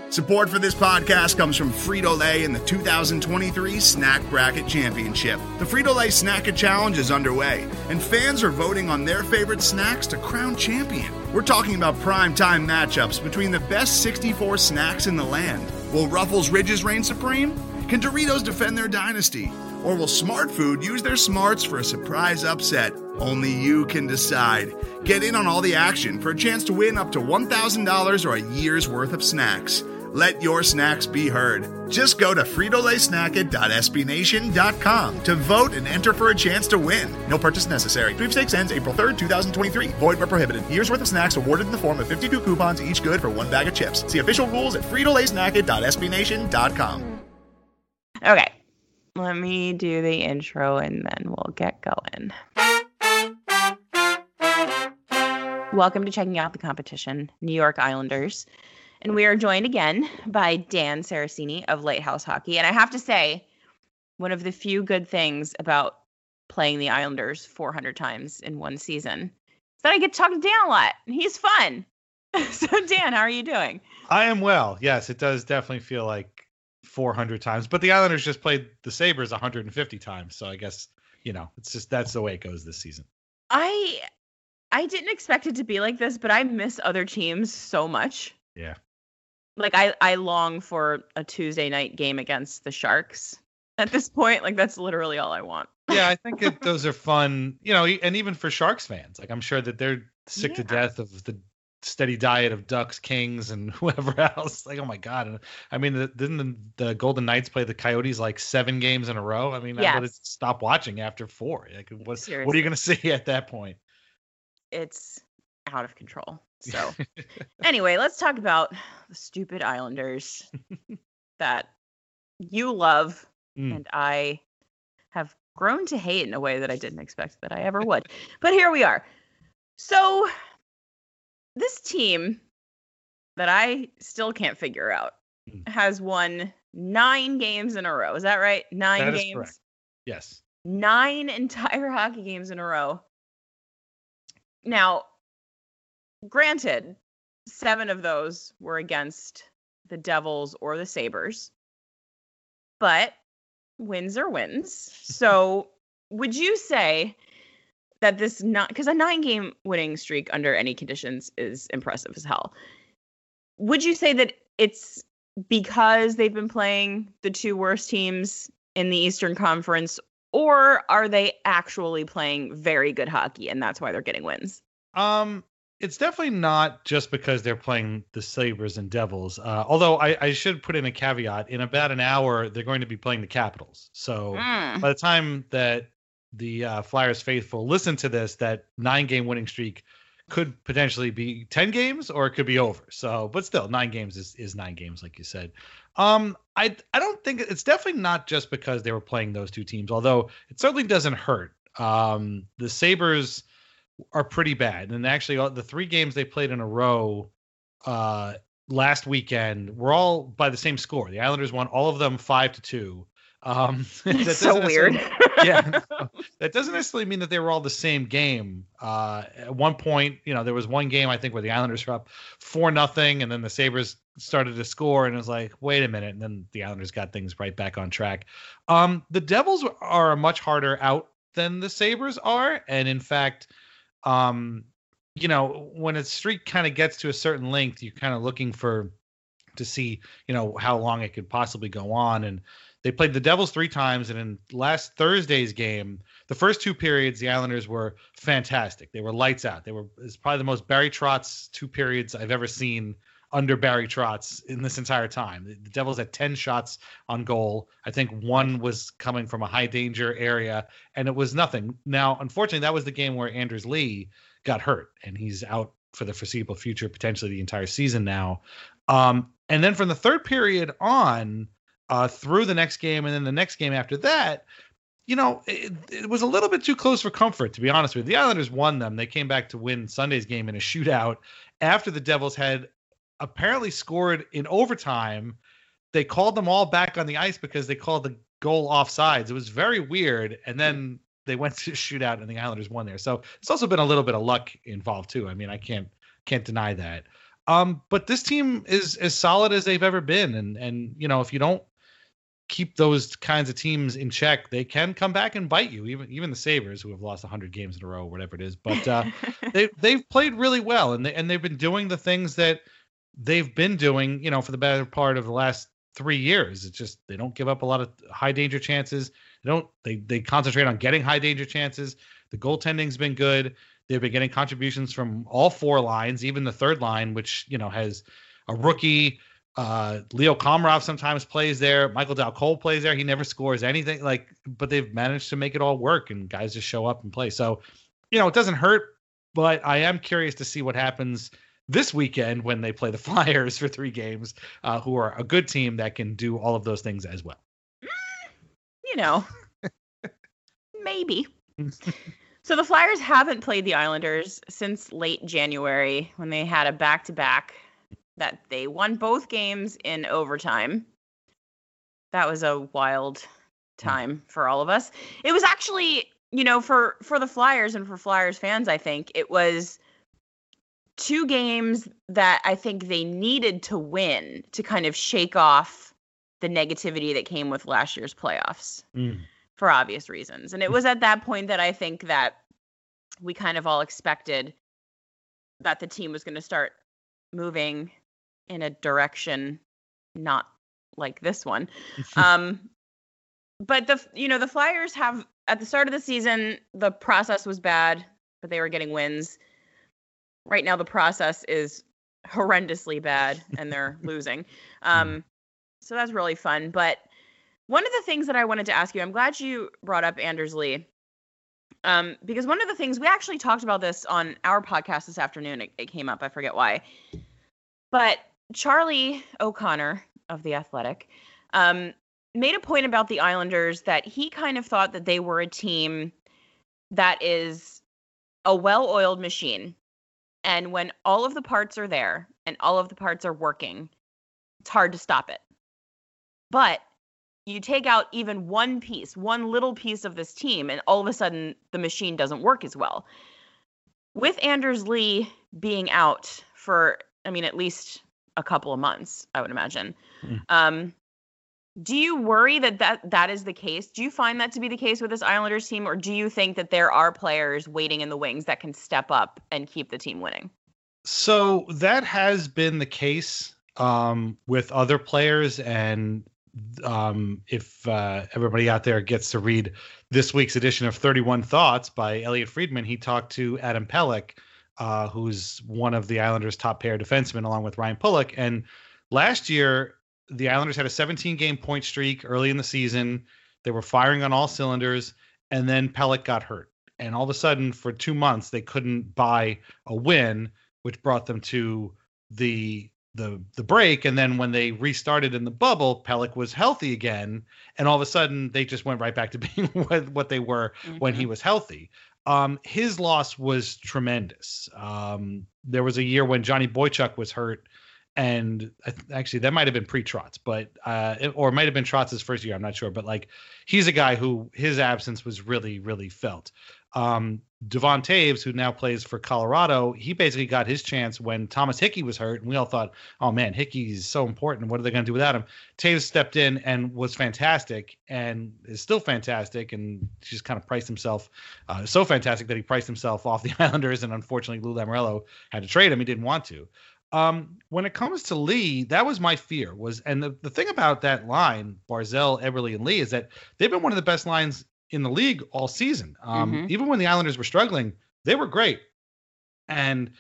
Support for this podcast comes from Frito-Lay and the 2023 Snack Bracket Championship. The Frito-Lay Snack-It Challenge is underway, and fans are voting on their favorite snacks to crown champion. We're talking about prime-time matchups between the best 64 snacks in the land. Will Ruffles Ridges reign supreme? Can Doritos defend their dynasty? Or will Smart Food use their smarts for a surprise upset? Only you can decide. Get in on all the action for a chance to win up to $1,000 or a year's worth of snacks. Let your snacks be heard. Just go to fritolaysnacket.sbnation.com to vote and enter for a chance to win. No purchase necessary. Sweepstakes ends April 3rd, 2023. Void where prohibited. Year's worth of snacks awarded in the form of 52 coupons, each good for one bag of chips. See official rules at fritolaysnacket.sbnation.com. Okay, let me do the intro and then we'll get going. Welcome to Checking Out the Competition, New York Islanders. And we are joined again by Dan Saracini of Lighthouse Hockey. And I have to say, one of the few good things about playing the Islanders 400 times in one season is that I get to talk to Dan a lot. And he's fun. So, Dan, how are you doing? I am well. Yes, it does definitely feel like 400 times. But the Islanders just played the Sabres 150 times. So I guess, it's just that's the way it goes this season. I didn't expect it to be like this, but I miss other teams so much. Yeah. Like, I long for a Tuesday night game against the Sharks at this point. Like, that's literally all I want. Yeah, I think those are fun, and even for Sharks fans. Like, I'm sure that they're sick to death of the steady diet of Ducks, Kings, and whoever else. Like, oh, my God. And I mean, didn't the Golden Knights play the Coyotes like 7 games in a row? I mean, yes. I would stop watching after 4. Like, what are you going to see at that point? It's out of control. So anyway, let's talk about the stupid Islanders that you love and I have grown to hate in a way that I didn't expect that I ever would. But here we are. So this team that I still can't figure out has won 9 games in a row. Is that right? 9 that games? Is correct. Yes. 9 entire hockey games in a row. Now, granted, 7 of those were against the Devils or the Sabres, but wins are wins. So would you say that this because a 9-game winning streak under any conditions is impressive as hell. Would you say that it's because they've been playing the 2 worst teams in the Eastern Conference, or are they actually playing very good hockey and that's why they're getting wins? It's definitely not just because they're playing the Sabres and Devils. Although I should put in a caveat. In about an hour, they're going to be playing the Capitals. So by the time that the Flyers faithful listen to this, that 9-game winning streak could potentially be 10 games or it could be over. So, but still, 9 games is 9 games, like you said. I don't think it's definitely not just because they were playing those 2 teams, although it certainly doesn't hurt. The Sabres are pretty bad. And actually, the 3 games they played in a row last weekend were all by the same score. The Islanders won all of them 5-2. That's so weird. Yeah, that doesn't necessarily mean that they were all the same game. At one point, there was one game I think where the Islanders were up 4-0, and then the Sabres started to score, and it was like, wait a minute, and then the Islanders got things right back on track. The Devils are a much harder out than the Sabres are, and in fact, when a streak kind of gets to a certain length, you're kind of looking to see, how long it could possibly go on. And they played the Devils 3 times. And in last Thursday's game, the first 2 periods, the Islanders were fantastic. They were lights out. It's probably the most Barry Trotz 2 periods I've ever seen under Barry Trotz in this entire time. The Devils had 10 shots on goal. I think 1 was coming from a high danger area, and it was nothing. Now, unfortunately, that was the game where Anders Lee got hurt, and he's out for the foreseeable future, potentially the entire season now. And then from the 3rd period on, through the next game, and then the next game after that, it was a little bit too close for comfort, to be honest with you. The Islanders won them. They came back to win Sunday's game in a shootout after the Devils had apparently scored in overtime. They called them all back on the ice because they called the goal offsides. It was very weird. And then they went to shootout and the Islanders won there. So it's also been a little bit of luck involved too. I mean, I can't deny that. But this team is as solid as they've ever been. And if you don't keep those kinds of teams in check, they can come back and bite you. Even the Sabres, who have lost 100 games in a row, whatever it is. But they've played really well, and they've been doing the things that they've been doing, for the better part of the last 3 years. It's just they don't give up a lot of high danger chances. They concentrate on getting high danger chances. The goaltending's been good. They've been getting contributions from all 4 lines, even the third line, which has a rookie. Leo Komarov sometimes plays there. Michael Dal-Cole plays there. He never scores anything, but they've managed to make it all work, and guys just show up and play. So, it doesn't hurt, but I am curious to see what happens this weekend when they play the Flyers for 3 games, who are a good team that can do all of those things as well. Maybe. So the Flyers haven't played the Islanders since late January, when they had a back-to-back that they won both games in overtime. That was a wild time for all of us. It was actually, for the Flyers and for Flyers fans, I think it was 2 games that I think they needed to win to kind of shake off the negativity that came with last year's playoffs for obvious reasons. And it was at that point that I think that we kind of all expected that the team was going to start moving in a direction not like this one. But the Flyers have, at the start of the season, the process was bad, but they were getting wins. Right now, the process is horrendously bad, and they're losing. So that's really fun. But one of the things that I wanted to ask you, I'm glad you brought up Anders Lee, because one of the things, we actually talked about this on our podcast this afternoon. It came up. I forget why. But Charlie O'Connor of The Athletic made a point about the Islanders that he kind of thought that they were a team that is a well-oiled machine. And when all of the parts are there and all of the parts are working, it's hard to stop it. But you take out even one little piece of this team, and all of a sudden the machine doesn't work as well. With Anders Lee being out for, at least a couple of months, I would imagine. Do you worry that is the case? Do you find that to be the case with this Islanders team, or do you think that there are players waiting in the wings that can step up and keep the team winning? So that has been the case with other players, and if everybody out there gets to read this week's edition of 31 Thoughts by Elliot Friedman, he talked to Adam Pelech, who's one of the Islanders' top pair defensemen, along with Ryan Pulock. And last year, the Islanders had a 17-game point streak early in the season. They were firing on all cylinders, and then Pelech got hurt. And all of a sudden, for 2 months, they couldn't buy a win, which brought them to the break. And then when they restarted in the bubble, Pelech was healthy again, and all of a sudden, they just went right back to being what they were when he was healthy. His loss was tremendous. There was a year when Johnny Boychuk was hurt, and actually that might have been pre-Trotz, but or it might have been Trotz's first year. I'm not sure, but he's a guy who his absence was really, really felt. Devon Taves, who now plays for Colorado, he basically got his chance when Thomas Hickey was hurt, and we all thought, oh man, Hickey's so important. What are they going to do without him? Taves stepped in and was fantastic, and is still fantastic, and just kind of priced himself so fantastic that he priced himself off the Islanders, and unfortunately Lou Lamoriello had to trade him. He didn't want to. When it comes to Lee, that was my fear. And the thing about that line, Barzal, Eberle, and Lee, is that they've been one of the best lines in the league all season. Even when the Islanders were struggling, they were great. And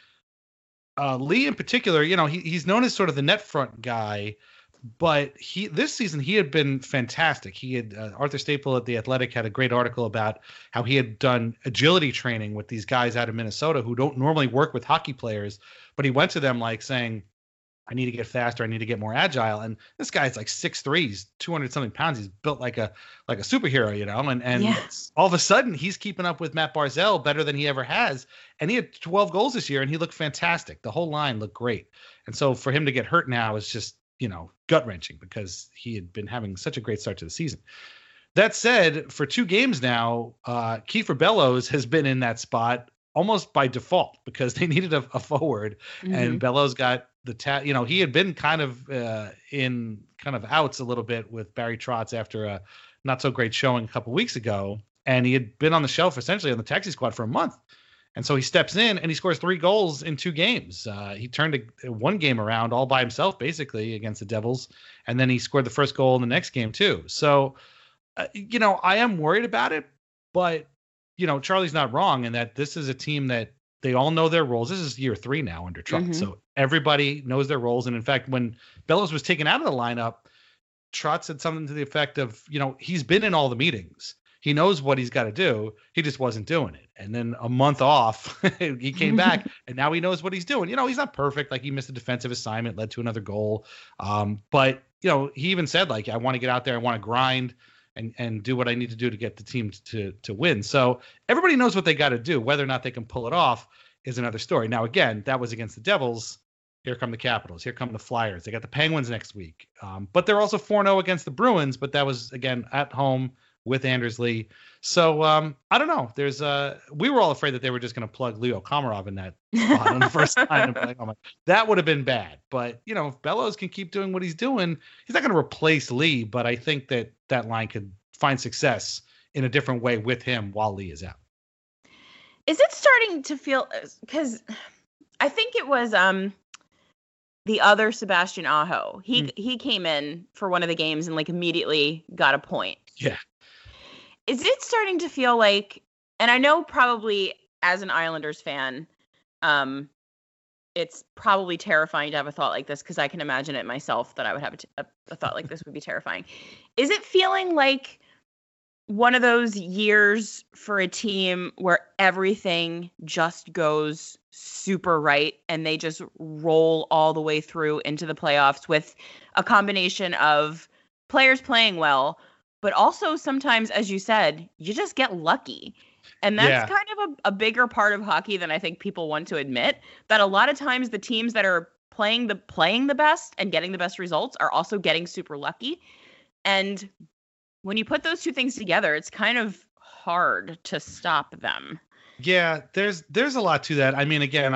Lee in particular, he's known as sort of the net front guy, but this season he had been fantastic. He had Arthur Staple at The Athletic had a great article about how he had done agility training with these guys out of Minnesota who don't normally work with hockey players, but he went to them saying, I need to get faster. I need to get more agile. And this guy's 6'3", he's 200 something pounds. He's built like a superhero, and yes. All of a sudden he's keeping up with Matt Barzal better than he ever has. And he had 12 goals this year, and he looked fantastic. The whole line looked great. And so for him to get hurt now is just, gut wrenching, because he had been having such a great start to the season. That said, for 2 games now, Kiefer Bellows has been in that spot almost by default, because they needed a forward, and Bellows got he had been kind of in kind of outs a little bit with Barry Trotz after a not so great showing a couple weeks ago, and he had been on the shelf essentially on the taxi squad for a month. And so he steps in and he scores 3 goals in 2 games. He turned one game around all by himself, basically, against the Devils. And then he scored the first goal in the next game, too. So, I am worried about it. But, Charlie's not wrong in that this is a team that they all know their roles. This is year 3 now under Trotz. Mm-hmm. So everybody knows their roles. And, in fact, when Bellows was taken out of the lineup, Trotz said something to the effect of, he's been in all the meetings. He knows what he's got to do. He just wasn't doing it. And then a month off, he came back, and now he knows what he's doing. He's not perfect. Like, he missed a defensive assignment, led to another goal. But, he even said, like, I want to get out there. I want to grind and do what I need to do to get the team to win. So everybody knows what they got to do. Whether or not they can pull it off is another story. Now, again, that was against the Devils. Here come the Capitals. Here come the Flyers. They got the Penguins next week. But they're also 4-0 against the Bruins. But that was, again, at home with Anders Lee. So I don't know. There's we were all afraid that they were just going to plug Leo Komarov in that spot on the first time. Like, oh my, that would have been bad. But if Bellows can keep doing what he's doing, he's not going to replace Lee. But I think that line could find success in a different way with him while Lee is out. Is it starting to feel, because I think it was the other Sebastian Aho. He came in for one of the games and like immediately got a point. Yeah. Is it starting to feel like, and I know probably as an Islanders fan, it's probably terrifying to have a thought like this, because I can imagine it myself that I would have a thought like this would be terrifying. Is it feeling like one of those years for a team where everything just goes super right and they just roll all the way through into the playoffs with a combination of players playing well, but also sometimes, as you said, you just get lucky. And that's kind of a bigger part of hockey than I think people want to admit, that a lot of times the teams that are playing the best and getting the best results are also getting super lucky. And when you put those two things together, it's kind of hard to stop them. Yeah, there's a lot to that. I mean, again,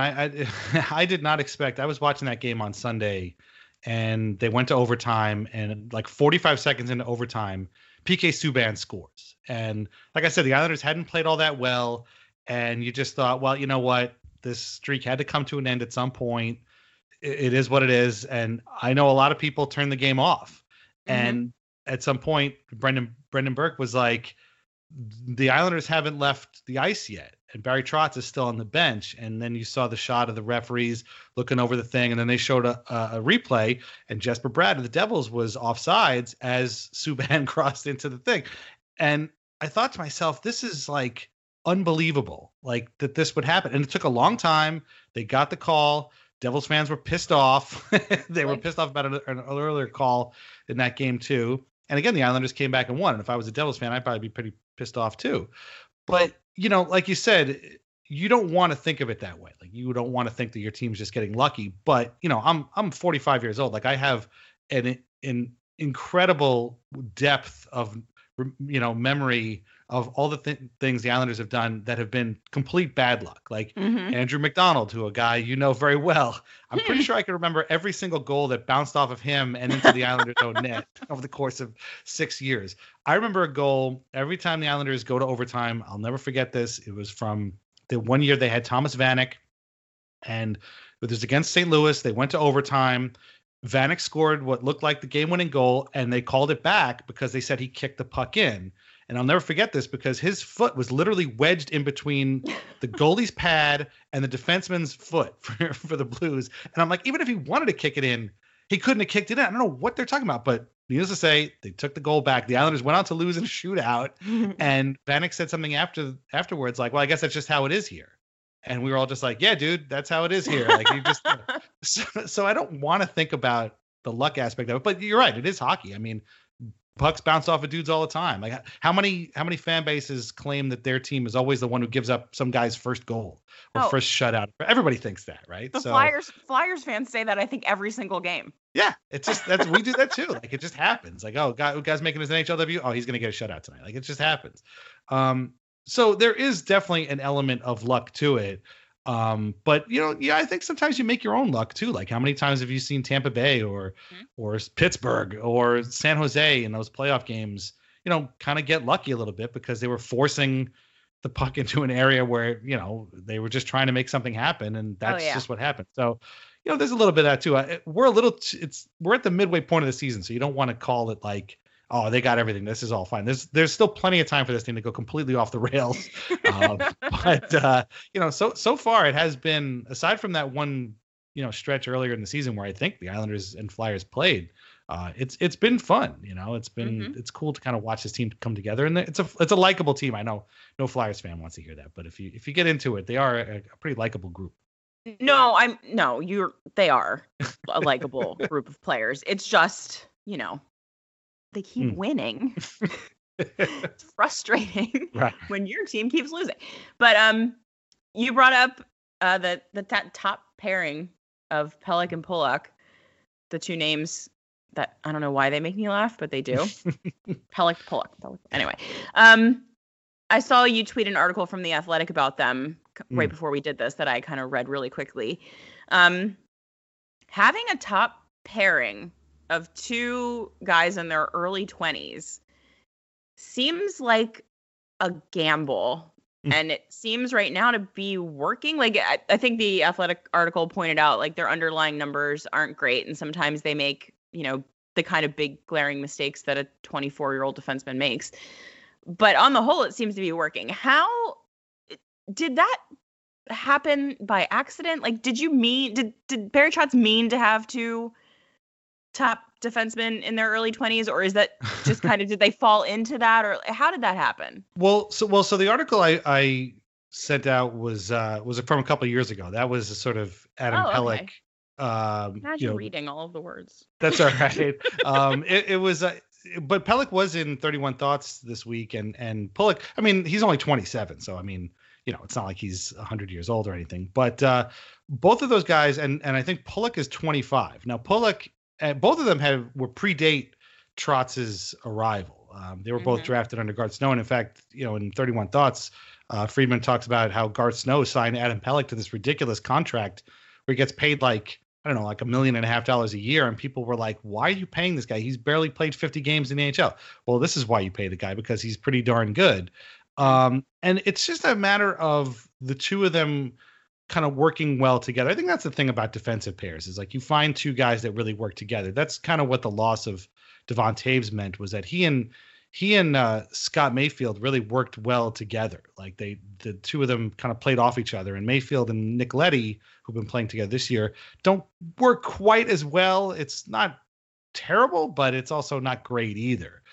I did not expect. I was watching that game on Sunday, and they went to overtime, and like 45 seconds into overtime, PK Subban scores. And like I said, the Islanders hadn't played all that well, and you just thought, well, you know what? This streak had to come to an end at some point. It is what it is. And I know a lot of people turned the game off. Mm-hmm. And at some point, Brendan Burke was like, the Islanders haven't left the ice yet, and Barry Trotz is still on the bench. And then you saw the shot of the referees looking over the thing, and then they showed a replay, and Jesper Bratt of the Devils was offsides as Subban crossed into the thing. And I thought to myself, this is like unbelievable, like that this would happen. And it took a long time. They got the call. Devils fans were pissed off. They were pissed off about an earlier call in that game too. And again, the Islanders came back and won. And if I was a Devils fan, I'd probably be pretty pissed off too. But, like you said, you don't want to think of it that way. Like, you don't want to think that your team's just getting lucky. But, I'm 45 years old. Like, I have an incredible depth of, memory of all the things the Islanders have done that have been complete bad luck. Like Andrew McDonald, who a guy very well. I'm pretty sure I can remember every single goal that bounced off of him and into the Islanders' own net over the course of 6 years. I remember a goal every time the Islanders go to overtime. I'll never forget this. It was from the one year they had Thomas Vanek, and it was against St. Louis. They went to overtime. Vanek scored what looked like the game-winning goal, and they called it back because they said he kicked the puck in. And I'll never forget this because his foot was literally wedged in between the goalie's pad and the defenseman's foot for the Blues. And I'm like, even if he wanted to kick it in, he couldn't have kicked it in. I don't know what they're talking about, but needless to say, they took the goal back. The Islanders went on to lose in a shootout, and Vanek said something afterwards, like, well, I guess that's just how it is here. And we were all just like, yeah, dude, that's how it is here. Like, you just so I don't want to think about the luck aspect of it, but you're right, it is hockey. I mean, pucks bounce off of dudes all the time. Like, how many fan bases claim that their team is always the one who gives up some guy's first goal or first shutout? Everybody thinks that, right? The Flyers fans say that, I think, every single game. Yeah, it's just we do that too. Like, it just happens. Like, oh, guy's making his NHL debut. Oh, he's gonna get a shutout tonight. Like, it just happens. So there is definitely an element of luck to it. But I think sometimes you make your own luck too. Like how many times have you seen Tampa Bay or Pittsburgh or San Jose in those playoff games, kind of get lucky a little bit because they were forcing the puck into an area where, they were just trying to make something happen. And that's just what happened. So, there's a little bit of that too. We're at the midway point of the season. So you don't want to call it like, oh, they got everything. This is all fine. There's still plenty of time for this thing to go completely off the rails. But so far it has been, aside from that one, stretch earlier in the season where I think the Islanders and Flyers played, it's been fun. It's cool to kind of watch this team come together, and it's a likable team. I know no Flyers fan wants to hear that, but if you get into it, they are a pretty likable group. They are a likable group of players. It's just, they keep winning. It's frustrating when your team keeps losing. But you brought up that top pairing of Pelech and Pulock, the two names that I don't know why they make me laugh, but they do. Pelech, Pulock. Anyway, I saw you tweet an article from The Athletic about them right before we did this that I kind of read really quickly. Having a top pairing of two guys in their early 20s seems like a gamble. And it seems right now to be working. Like, I think the Athletic article pointed out, like, their underlying numbers aren't great. And sometimes they make, the kind of big glaring mistakes that a 24-year-old defenseman makes. But on the whole, it seems to be working. How did that happen by accident? Like, did Barry Trotz mean to have two top defensemen in their early 20s, or is that just kind of, did they fall into that, or how did that happen? So the article I sent out was from a couple of years ago. That was a sort of Adam Pelech. Imagine reading all of the words. That's all right. It was, but Pelech was in 31 Thoughts this week, and Pulock, I mean, he's only 27, so I mean, it's not like he's 100 years old or anything. But both of those guys, and I think Pulock is 25 now. Pulock. Both of them were predate Trotz's arrival. They were both drafted under Garth Snow. And in fact, in 31 Thoughts, Friedman talks about how Garth Snow signed Adam Pelech to this ridiculous contract where he gets paid like $1.5 million a year. And people were like, why are you paying this guy? He's barely played 50 games in the NHL. Well, this is why you pay the guy, because he's pretty darn good. And it's just a matter of the two of them kind of working well together. I think that's the thing about defensive pairs, is like you find two guys that really work together. That's kind of what the loss of Devon Toews meant, was that he and Scott Mayfield really worked well together. Like the two of them kind of played off each other, and Mayfield and Nick Leddy, who've been playing together this year, don't work quite as well. It's not terrible, but it's also not great either.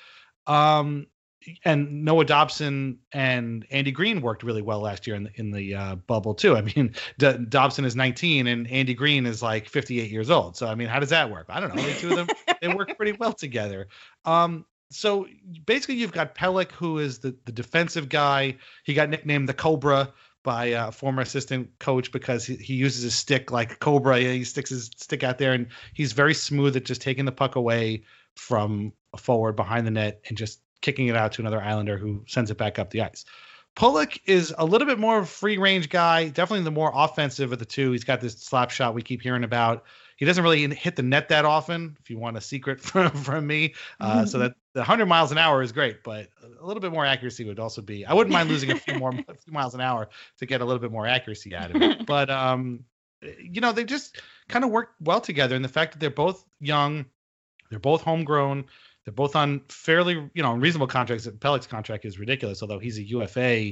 And Noah Dobson and Andy Green worked really well last year in the bubble too. I mean, Dobson is 19 and Andy Green is like 58 years old. So I mean, how does that work? I don't know. The two of them, they work pretty well together. So basically, you've got Pelech, who is the defensive guy. He got nicknamed the Cobra by a former assistant coach because he uses his stick like a cobra. He sticks his stick out there, and he's very smooth at just taking the puck away from a forward behind the net and just kicking it out to another Islander who sends it back up the ice. Pulock is a little bit more of a free range guy, definitely the more offensive of the two. He's got this slap shot we keep hearing about. He doesn't really hit the net that often, if you want a secret from me. So that the 100 miles an hour is great, but a little bit more accuracy would also be. I wouldn't mind losing a few miles an hour to get a little bit more accuracy out of it. But they just kind of work well together. And the fact that they're both young, they're both homegrown, they're both on fairly, reasonable contracts. Pelech's contract is ridiculous, although he's a UFA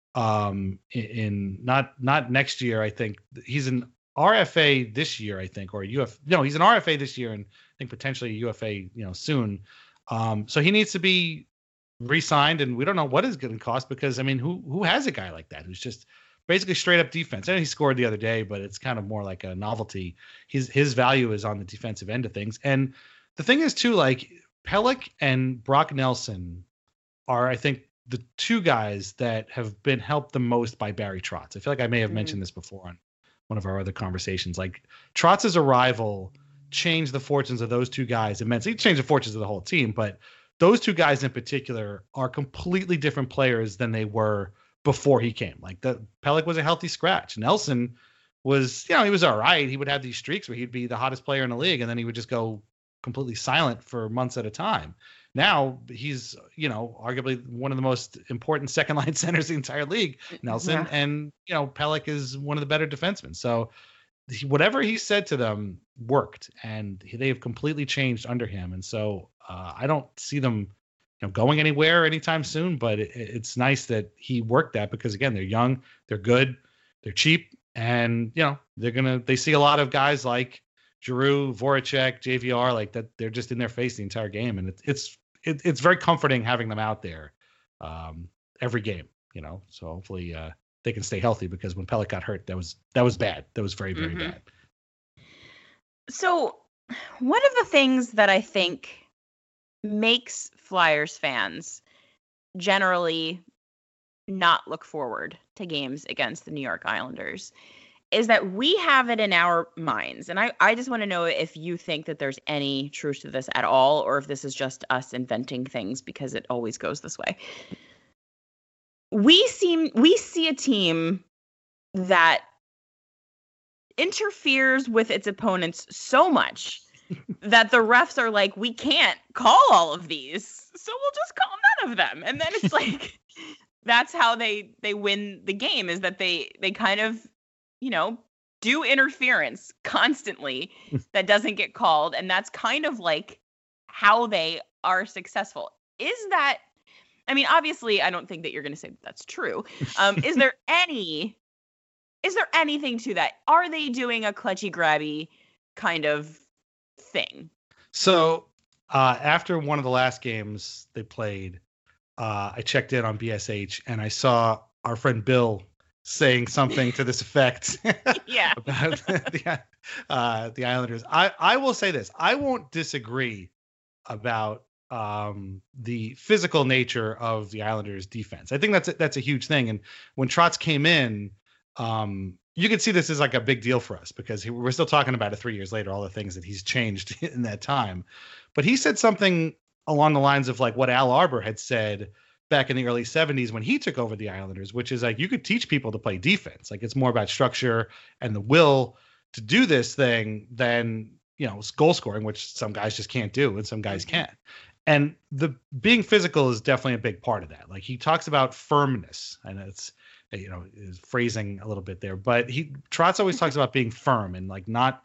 in not next year. I think he's an RFA this year, I think, or he's an RFA this year, and I think potentially a UFA, soon. So he needs to be re-signed, and we don't know what it's going to cost because, I mean, who has a guy like that who's just basically straight up defense? I know he scored the other day, but it's kind of more like a novelty. His value is on the defensive end of things, and the thing is too, like Pelech and Brock Nelson are, I think, the two guys that have been helped the most by Barry Trotz. I feel like I may have mentioned this before on one of our other conversations. Like Trotz's arrival changed the fortunes of those two guys immensely. It changed the fortunes of the whole team, but those two guys in particular are completely different players than they were before he came. Like Pelech was a healthy scratch. Nelson was, he was all right. He would have these streaks where he'd be the hottest player in the league, and then he would just go completely silent for months at a time. Now he's, arguably one of the most important second line centers in the entire league, Nelson. Yeah. And, Pelech is one of the better defensemen. So whatever he said to them worked, and they have completely changed under him. And so I don't see them going anywhere anytime soon, but it's nice that he worked that, because again, they're young, they're good, they're cheap. And, they see a lot of guys like Giroux, Voracek, JVR, like that. They're just in their face the entire game. And it's very comforting having them out there every game, so hopefully they can stay healthy, because when Pelech got hurt, that was bad. That was very, very bad. So one of the things that I think makes Flyers fans generally not look forward to games against the New York Islanders is that we have it in our minds. And I just want to know if you think that there's any truth to this at all, or if this is just us inventing things because it always goes this way. We see a team that interferes with its opponents so much that the refs are like, we can't call all of these, so we'll just call none of them. And then it's like, that's how they win the game, is that they kind of, do interference constantly that doesn't get called. And that's kind of like how they are successful. Is that, obviously I don't think that you're going to say that's true. Is there anything to that? Are they doing a clutchy grabby kind of thing? So after one of the last games they played, I checked in on BSH and I saw our friend Bill saying something to this effect yeah. about the Islanders. I will say this. I won't disagree about the physical nature of the Islanders defense. I think that's a huge thing. And when Trotz came in, you could see this as like a big deal for us, because we're still talking about it 3 years later, all the things that he's changed in that time. But he said something along the lines of like what Al Arbor had said back in the early 70s when he took over the Islanders, which is like, you could teach people to play defense. Like, it's more about structure and the will to do this thing than, goal scoring, which some guys just can't do and some guys can. And the being physical is definitely a big part of that. Like, he talks about firmness, and it's, is phrasing a little bit there, but Trotz always talks about being firm and like not,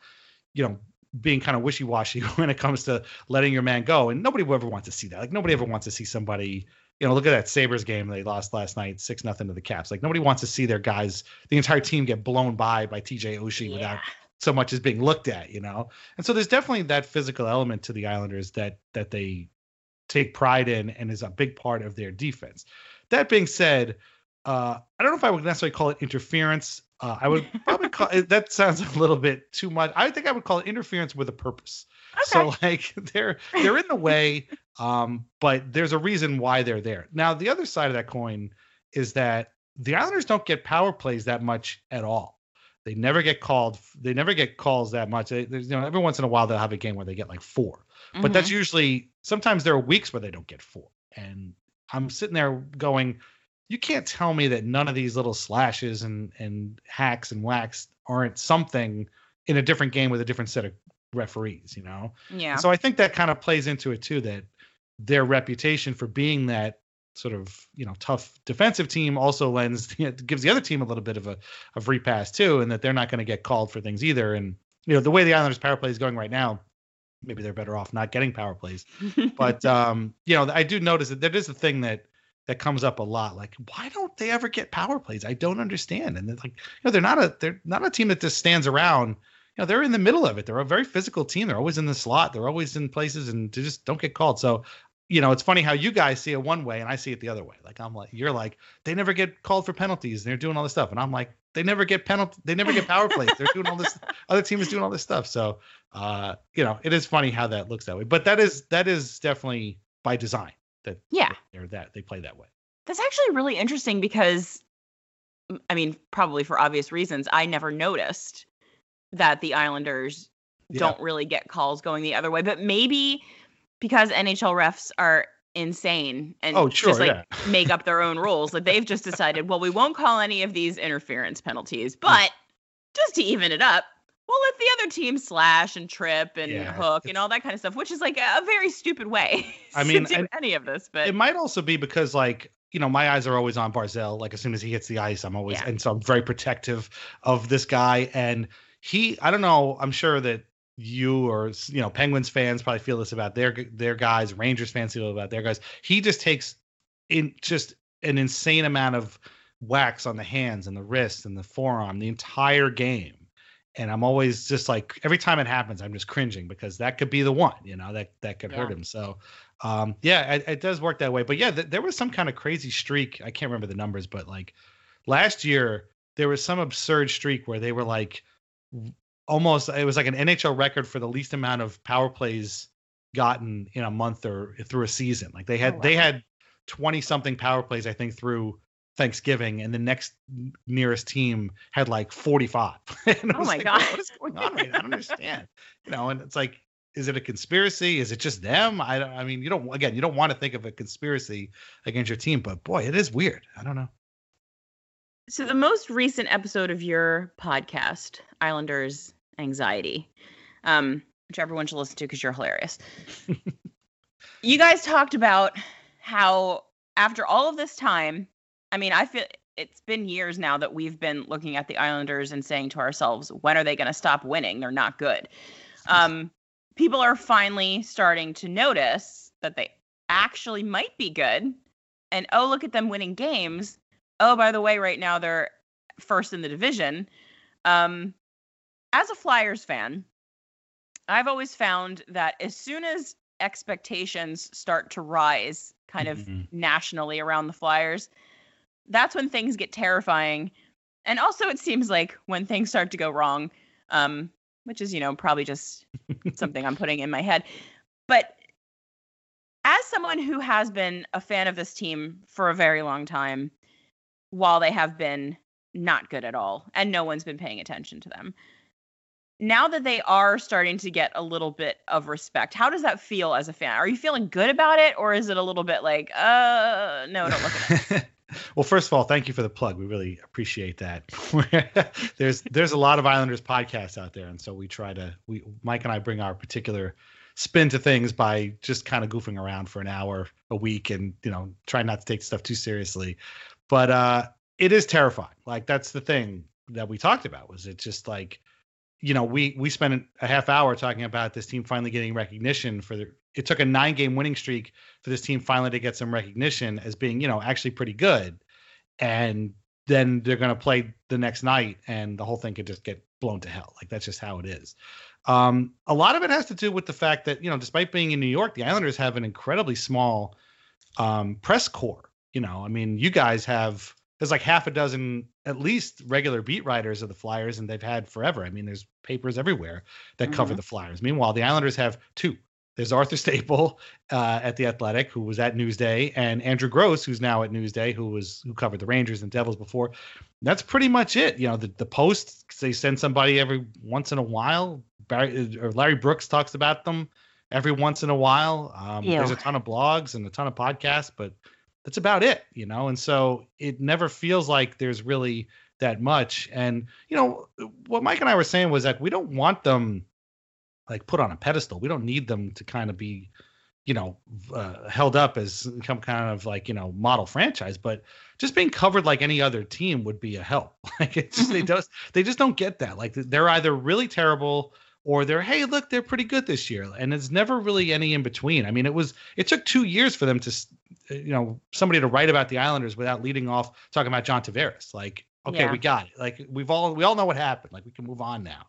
being kind of wishy-washy when it comes to letting your man go. And nobody will ever want to see that. Like, nobody ever wants to see somebody, look at that Sabres game they lost last night, 6-0 to the Caps. Like, nobody wants to see their guys, the entire team, get blown by TJ Oshie without so much as being looked at, And so there's definitely that physical element to the Islanders that they take pride in and is a big part of their defense. That being said, I don't know if I would necessarily call it interference. I would probably call it, that sounds a little bit too much. I think I would call it interference with a purpose. Okay. So like they're in the way, but there's a reason why they're there. Now, the other side of that coin is that the Islanders don't get power plays that much at all. They never get called. They never get calls that much. Every once in a while they'll have a game where they get like 4, but that's usually, sometimes there are weeks where they don't get 4. And I'm sitting there going, you can't tell me that none of these little slashes and hacks and whacks aren't something in a different game with a different set of referees, Yeah. And so I think that kind of plays into it too, that their reputation for being that sort of, tough defensive team also gives the other team a little bit of a free pass too, and that they're not going to get called for things either. And, the way the Islanders power play is going right now, maybe they're better off not getting power plays. But, I do notice that there is a thing that comes up a lot. Like, why don't they ever get power plays? I don't understand. And it's like, they're not a team that just stands around. They're in the middle of it. They're a very physical team. They're always in the slot. They're always in places, and they just don't get called. So, it's funny how you guys see it one way and I see it the other way. Like, you're like, they never get called for penalties and they're doing all this stuff. And I'm like, they never get power plays. They're doing all this, other team is doing all this stuff. So, it is funny how that looks that way, but that is definitely by design. They play that way. That's actually really interesting because, probably for obvious reasons, I never noticed that the Islanders don't really get calls going the other way. But maybe because NHL refs are insane and just make up their own rules. Like they've just decided, well, we won't call any of these interference penalties, but just to even it up, we'll let the other team slash and trip and hook and all that kind of stuff, which is like a very stupid way to do any of this. But it might also be because like, my eyes are always on Barzal. Like as soon as he hits the ice, I'm always, and so I'm very protective of this guy. And I don't know, I'm sure that you or, Penguins fans probably feel this about their guys, Rangers fans feel about their guys. He just takes in just an insane amount of wax on the hands and the wrists and the forearm the entire game. And I'm always just like, every time it happens, I'm just cringing because that could be the one, that could hurt him. So, it does work that way. But yeah, there was some kind of crazy streak. I can't remember the numbers, but like last year, there was some absurd streak where they were like almost, it was like an NHL record for the least amount of power plays gotten in a month or through a season. Like they had 20 something power plays, I think, through Thanksgiving, and the next nearest team had like 45. Oh my God. What is going on right now? I don't understand. And it's like, is it a conspiracy? Is it just them? I mean, you don't want to think of a conspiracy against your team, but boy, it is weird. I don't know. So the most recent episode of your podcast, Islanders Anxiety, which everyone should listen to because you're hilarious. You guys talked about how after all of this time, I mean, I feel it's been years now that we've been looking at the Islanders and saying to ourselves, when are they going to stop winning? They're not good. People are finally starting to notice that they actually might be good. And, oh, look at them winning games. Oh, by the way, right now they're first in the division. As a Flyers fan, I've always found that as soon as expectations start to rise kind of nationally around the Flyers, that's when things get terrifying. And also it seems like when things start to go wrong, which is, probably just something I'm putting in my head. But as someone who has been a fan of this team for a very long time, while they have been not good at all, and no one's been paying attention to them, now that they are starting to get a little bit of respect, how does that feel as a fan? Are you feeling good about it, or is it a little bit like, no, don't look at it? Well, first of all, thank you for the plug. We really appreciate that. There's a lot of Islanders podcasts out there, and so Mike and I bring our particular spin to things by just kind of goofing around for an hour a week and try not to take stuff too seriously. But it is terrifying. Like that's the thing that we talked about. Was it just like, we spent a half hour talking about this team finally getting recognition it took a 9-game winning streak for this team finally to get some recognition as being, actually pretty good. And then they're going to play the next night and the whole thing could just get blown to hell. Like that's just how it is. A lot of it has to do with the fact that, despite being in New York, the Islanders have an incredibly small press corps. I mean, you guys there's like half a dozen at least regular beat writers of the Flyers, and they've had forever. I mean, there's papers everywhere that cover the Flyers. Meanwhile, the Islanders have 2. There's Arthur Staple at The Athletic, who was at Newsday, and Andrew Gross, who's now at Newsday, who covered the Rangers and Devils before. That's pretty much it. The Post, they send somebody every once in a while. Larry Brooks talks about them every once in a while. There's a ton of blogs and a ton of podcasts, but that's about it, and so it never feels like there's really that much. And, what Mike and I were saying was that we don't want them like put on a pedestal. We don't need them to kind of be, held up as some kind of like, model franchise, but just being covered like any other team would be a help. Like it's just, they just don't get that. Like they're either really terrible or they're, hey, look, they're pretty good this year. And it's never really any in between. I mean, it took 2 years for them to, somebody to write about the Islanders without leading off talking about John Tavares. Like, okay, we got it. Like we all know what happened. Like we can move on now.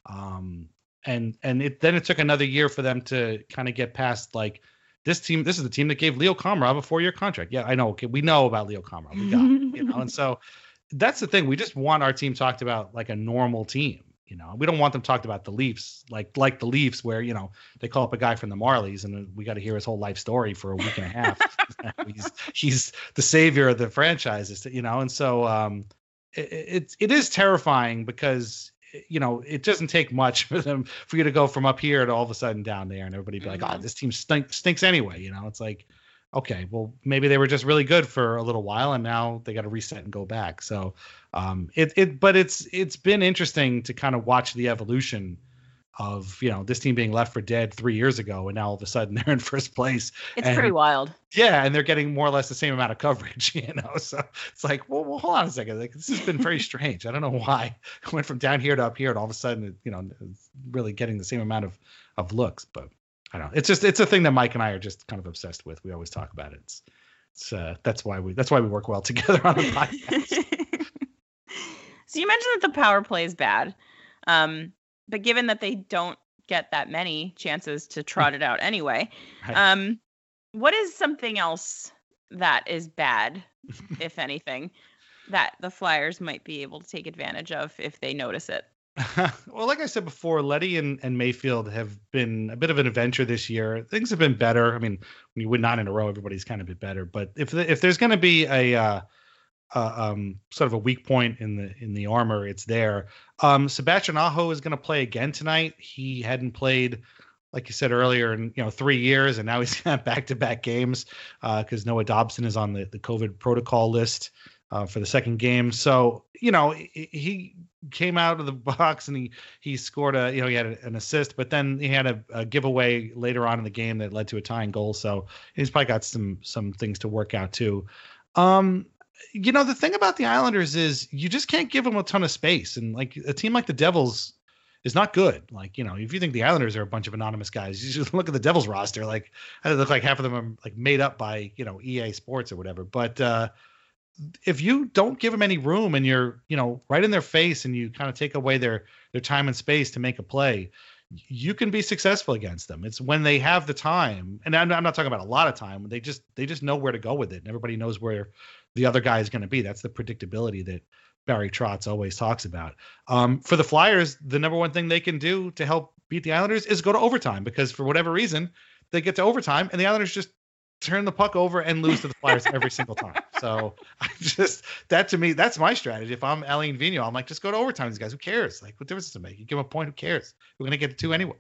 And it took another year for them to kind of get past like this team. This is the team that gave Leo Komarov a 4-year contract. Yeah, I know. Okay, we know about Leo Komarov. We got it, and so that's the thing. We just want our team talked about like a normal team. We don't want them talked about the Leafs, like the Leafs, where they call up a guy from the Marlies and we got to hear his whole life story for a week and a half. he's the savior of the franchise, and so it is terrifying because it doesn't take much for you to go from up here to all of a sudden down there, and everybody be like, oh, this team stinks anyway. It's like, okay, well, maybe they were just really good for a little while, and now they got to reset and go back. So, but it's been interesting to kind of watch the evolution of, this team being left for dead 3 years ago, and now all of a sudden they're in first place. It's pretty wild. Yeah, and they're getting more or less the same amount of coverage, So it's like, well, hold on a second. Like, this has been very strange. I don't know why it went from down here to up here, and all of a sudden, it's really getting the same amount of looks. But I don't know. It's a thing that Mike and I are just kind of obsessed with. We always talk about it. It's that's why we work well together on the podcast. So you mentioned that the power play is bad. But given that they don't get that many chances to trot it out anyway, Right. What is something else that is bad, if anything, that the Flyers might be able to take advantage of if they notice it? Well, like I said before, Letty and Mayfield have been a bit of an adventure this year. Things have been better. I mean, when you win 9 in a row, everybody's kind of been better. But if there's going to be a sort of a weak point in the armor, it's there. Sebastian Aho is going to play again tonight. He hadn't played, like you said earlier, in 3 years, and now he's got back-to-back games because Noah Dobson is on the COVID protocol list for the second game. So he came out of the box and he scored he had an assist, but then he had a giveaway later on in the game that led to a tying goal. So he's probably got some things to work out too. The thing about the Islanders is you just can't give them a ton of space. And like a team like the Devils is not good. Like, if you think the Islanders are a bunch of anonymous guys, you just look at the Devils roster. Like, I look like half of them are like made up by, EA Sports or whatever. But if you don't give them any room and you're, right in their face and you kind of take away their time and space to make a play, you can be successful against them. It's when they have the time, and I'm not talking about a lot of time. They just know where to go with it, and everybody knows where the other guy is going to be. That's the predictability that Barry Trotz always talks about. For the Flyers, the number one thing they can do to help beat the Islanders is go to overtime, because for whatever reason, they get to overtime and the Islanders just turn the puck over and lose to the Flyers every single time. So that to me, that's my strategy. If I'm Alain Vigneault, I'm like, just go to overtime. These guys, who cares? Like, what difference does it make? You give them a point, who cares? We're going to get to 2 anyway.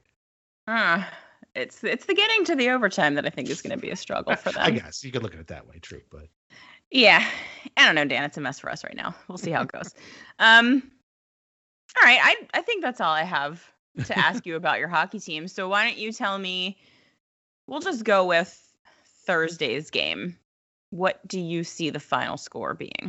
It's the getting to the overtime that I think is going to be a struggle for them. I guess you could look at it that way, true, but yeah, I don't know, Dan. It's a mess for us right now. We'll see how it goes. All right, I think that's all I have to ask you about your hockey team. So why don't you tell me? We'll just go with Thursday's game. What do you see the final score being?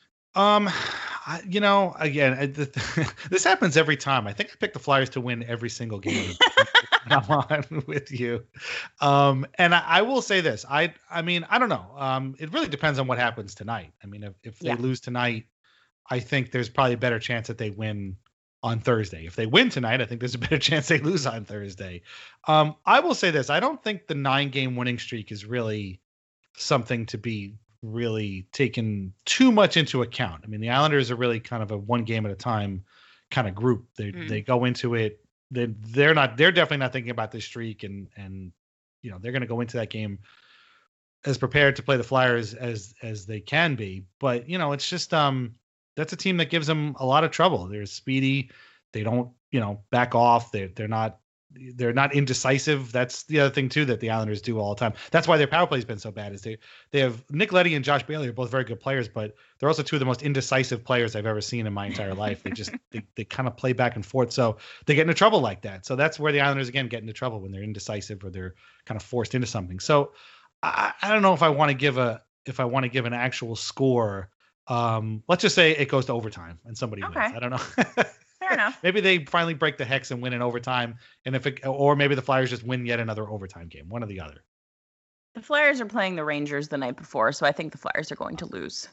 Again, this happens every time. I think I pick the Flyers to win every single game. I'm on with you. And I will say this. I mean, I don't know. It really depends on what happens tonight. I mean, if they lose tonight, I think there's probably a better chance that they win on Thursday. If they win tonight, I think there's a better chance they lose on Thursday. I will say this. I don't think the 9-game winning streak is really something to be really taken too much into account. I mean, the Islanders are really kind of a one game at a time kind of group. They go into it. They're definitely not thinking about this streak, and they're going to go into that game as prepared to play the Flyers as they can be. But it's just that's a team that gives them a lot of trouble. They're speedy. They don't back off. They're not indecisive. That's the other thing too that the Islanders do all the time. That's why their power play has been so bad. Is they have Nick Leddy and Josh Bailey are both very good players, but they're also two of the most indecisive players I've ever seen in my entire life. They kind of play back and forth, so they get into trouble like that. So that's where the Islanders again get into trouble, when they're indecisive or they're kind of forced into something. So I don't know if I want to give an actual score. Let's just say it goes to overtime and somebody wins. I don't know. Fair enough. Maybe they finally break the hex and win in overtime, or maybe the Flyers just win yet another overtime game. One or the other. The Flyers are playing the Rangers the night before, so I think the Flyers are going to lose.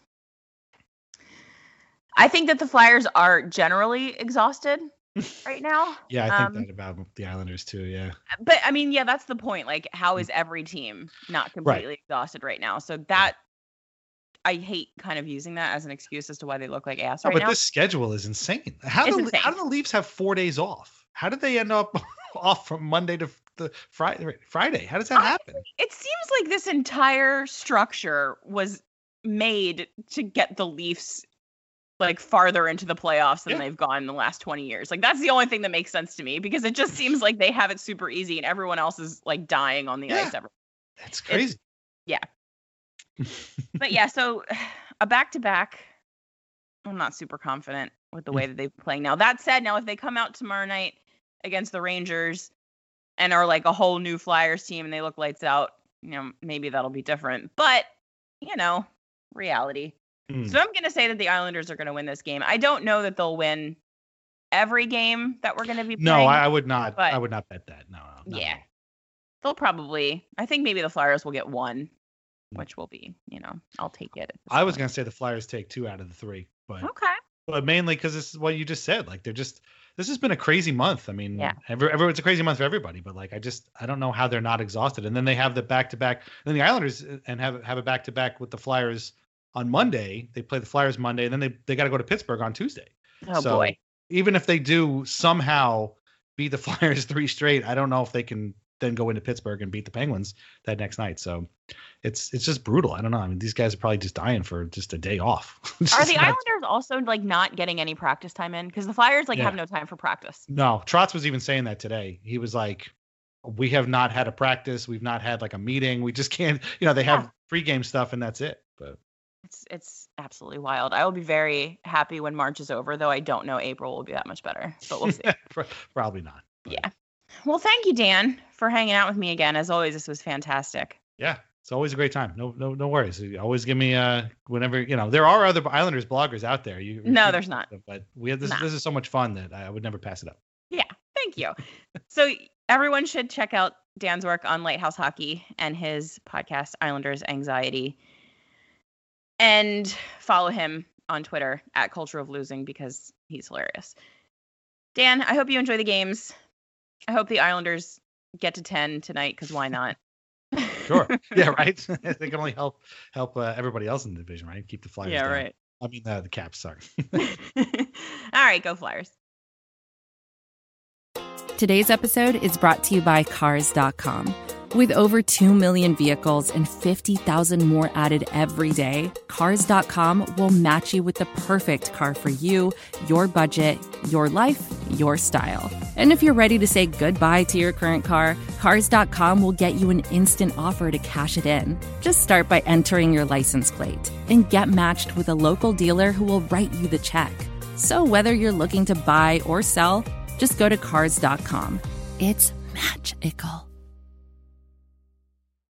I think that the Flyers are generally exhausted right now. Yeah, I think that about the Islanders too. Yeah. But I mean, yeah, that's the point. Like, how is every team not completely exhausted right now? So that. I hate kind of using that as an excuse as to why they look like ass right now. But this schedule is insane. How do the Leafs have 4 days off? How did they end up off from Monday to the Friday? How does that happen? It seems like this entire structure was made to get the Leafs like farther into the playoffs than they've gone in the last 20 years. Like, that's the only thing that makes sense to me, because it just seems like they have it super easy and everyone else is like dying on the ice. That's crazy. Yeah. But yeah, so a back-to-back, I'm not super confident with the way that they've been playing. Now, that said, if they come out tomorrow night against the Rangers and are like a whole new Flyers team and they look lights out, maybe that'll be different. But, reality. So I'm going to say that the Islanders are going to win this game. I don't know that they'll win every game that we're going to be playing. No, I would not. I would not bet that. No. Yeah. They'll probably, I think maybe the Flyers will get one, which will be, I'll take it. I was going to say the Flyers take 2 out of the 3, but okay. But mainly because this is what you just said. Like this has been a crazy month. I mean, yeah. It's a crazy month for everybody, but like, I don't know how they're not exhausted. And then they have the back-to-back, and then the Islanders and have a back-to-back with the Flyers on Monday. They play the Flyers Monday, and then they got to go to Pittsburgh on Tuesday. Oh, so boy. Even if they do somehow beat the Flyers 3 straight, I don't know if they can then go into Pittsburgh and beat the Penguins that next night. So it's just brutal. I don't know. I mean, these guys are probably just dying for just a day off. Are the Islanders also like not getting any practice time in? Because the Flyers have no time for practice. No, Trotz was even saying that today. He was like, we have not had a practice. We've not had like a meeting. We just can't, they have pregame stuff and that's it. But it's absolutely wild. I will be very happy when March is over, though I don't know April will be that much better, but we'll see. Probably not. But. Yeah. Well, thank you, Dan, for hanging out with me again. As always, this was fantastic. Yeah, it's always a great time. No worries. You always give me whenever, there are other Islanders bloggers out there. No, there's not. But we have this is so much fun that I would never pass it up. Yeah, thank you. So everyone should check out Dan's work on Lighthouse Hockey and his podcast, Islanders Anxiety. And follow him on Twitter at Culture of Losing because he's hilarious. Dan, I hope you enjoy the games. I hope the Islanders get to 10 tonight because why not? Sure. Yeah, right. They can only help everybody else in the division, right? Keep the Flyers down. Right. I mean, the Caps, sorry. All right, go Flyers. Today's episode is brought to you by Cars.com. With over 2 million vehicles and 50,000 more added every day, Cars.com will match you with the perfect car for you, your budget, your life, your style. And if you're ready to say goodbye to your current car, Cars.com will get you an instant offer to cash it in. Just start by entering your license plate and get matched with a local dealer who will write you the check. So whether you're looking to buy or sell, just go to Cars.com. It's magical.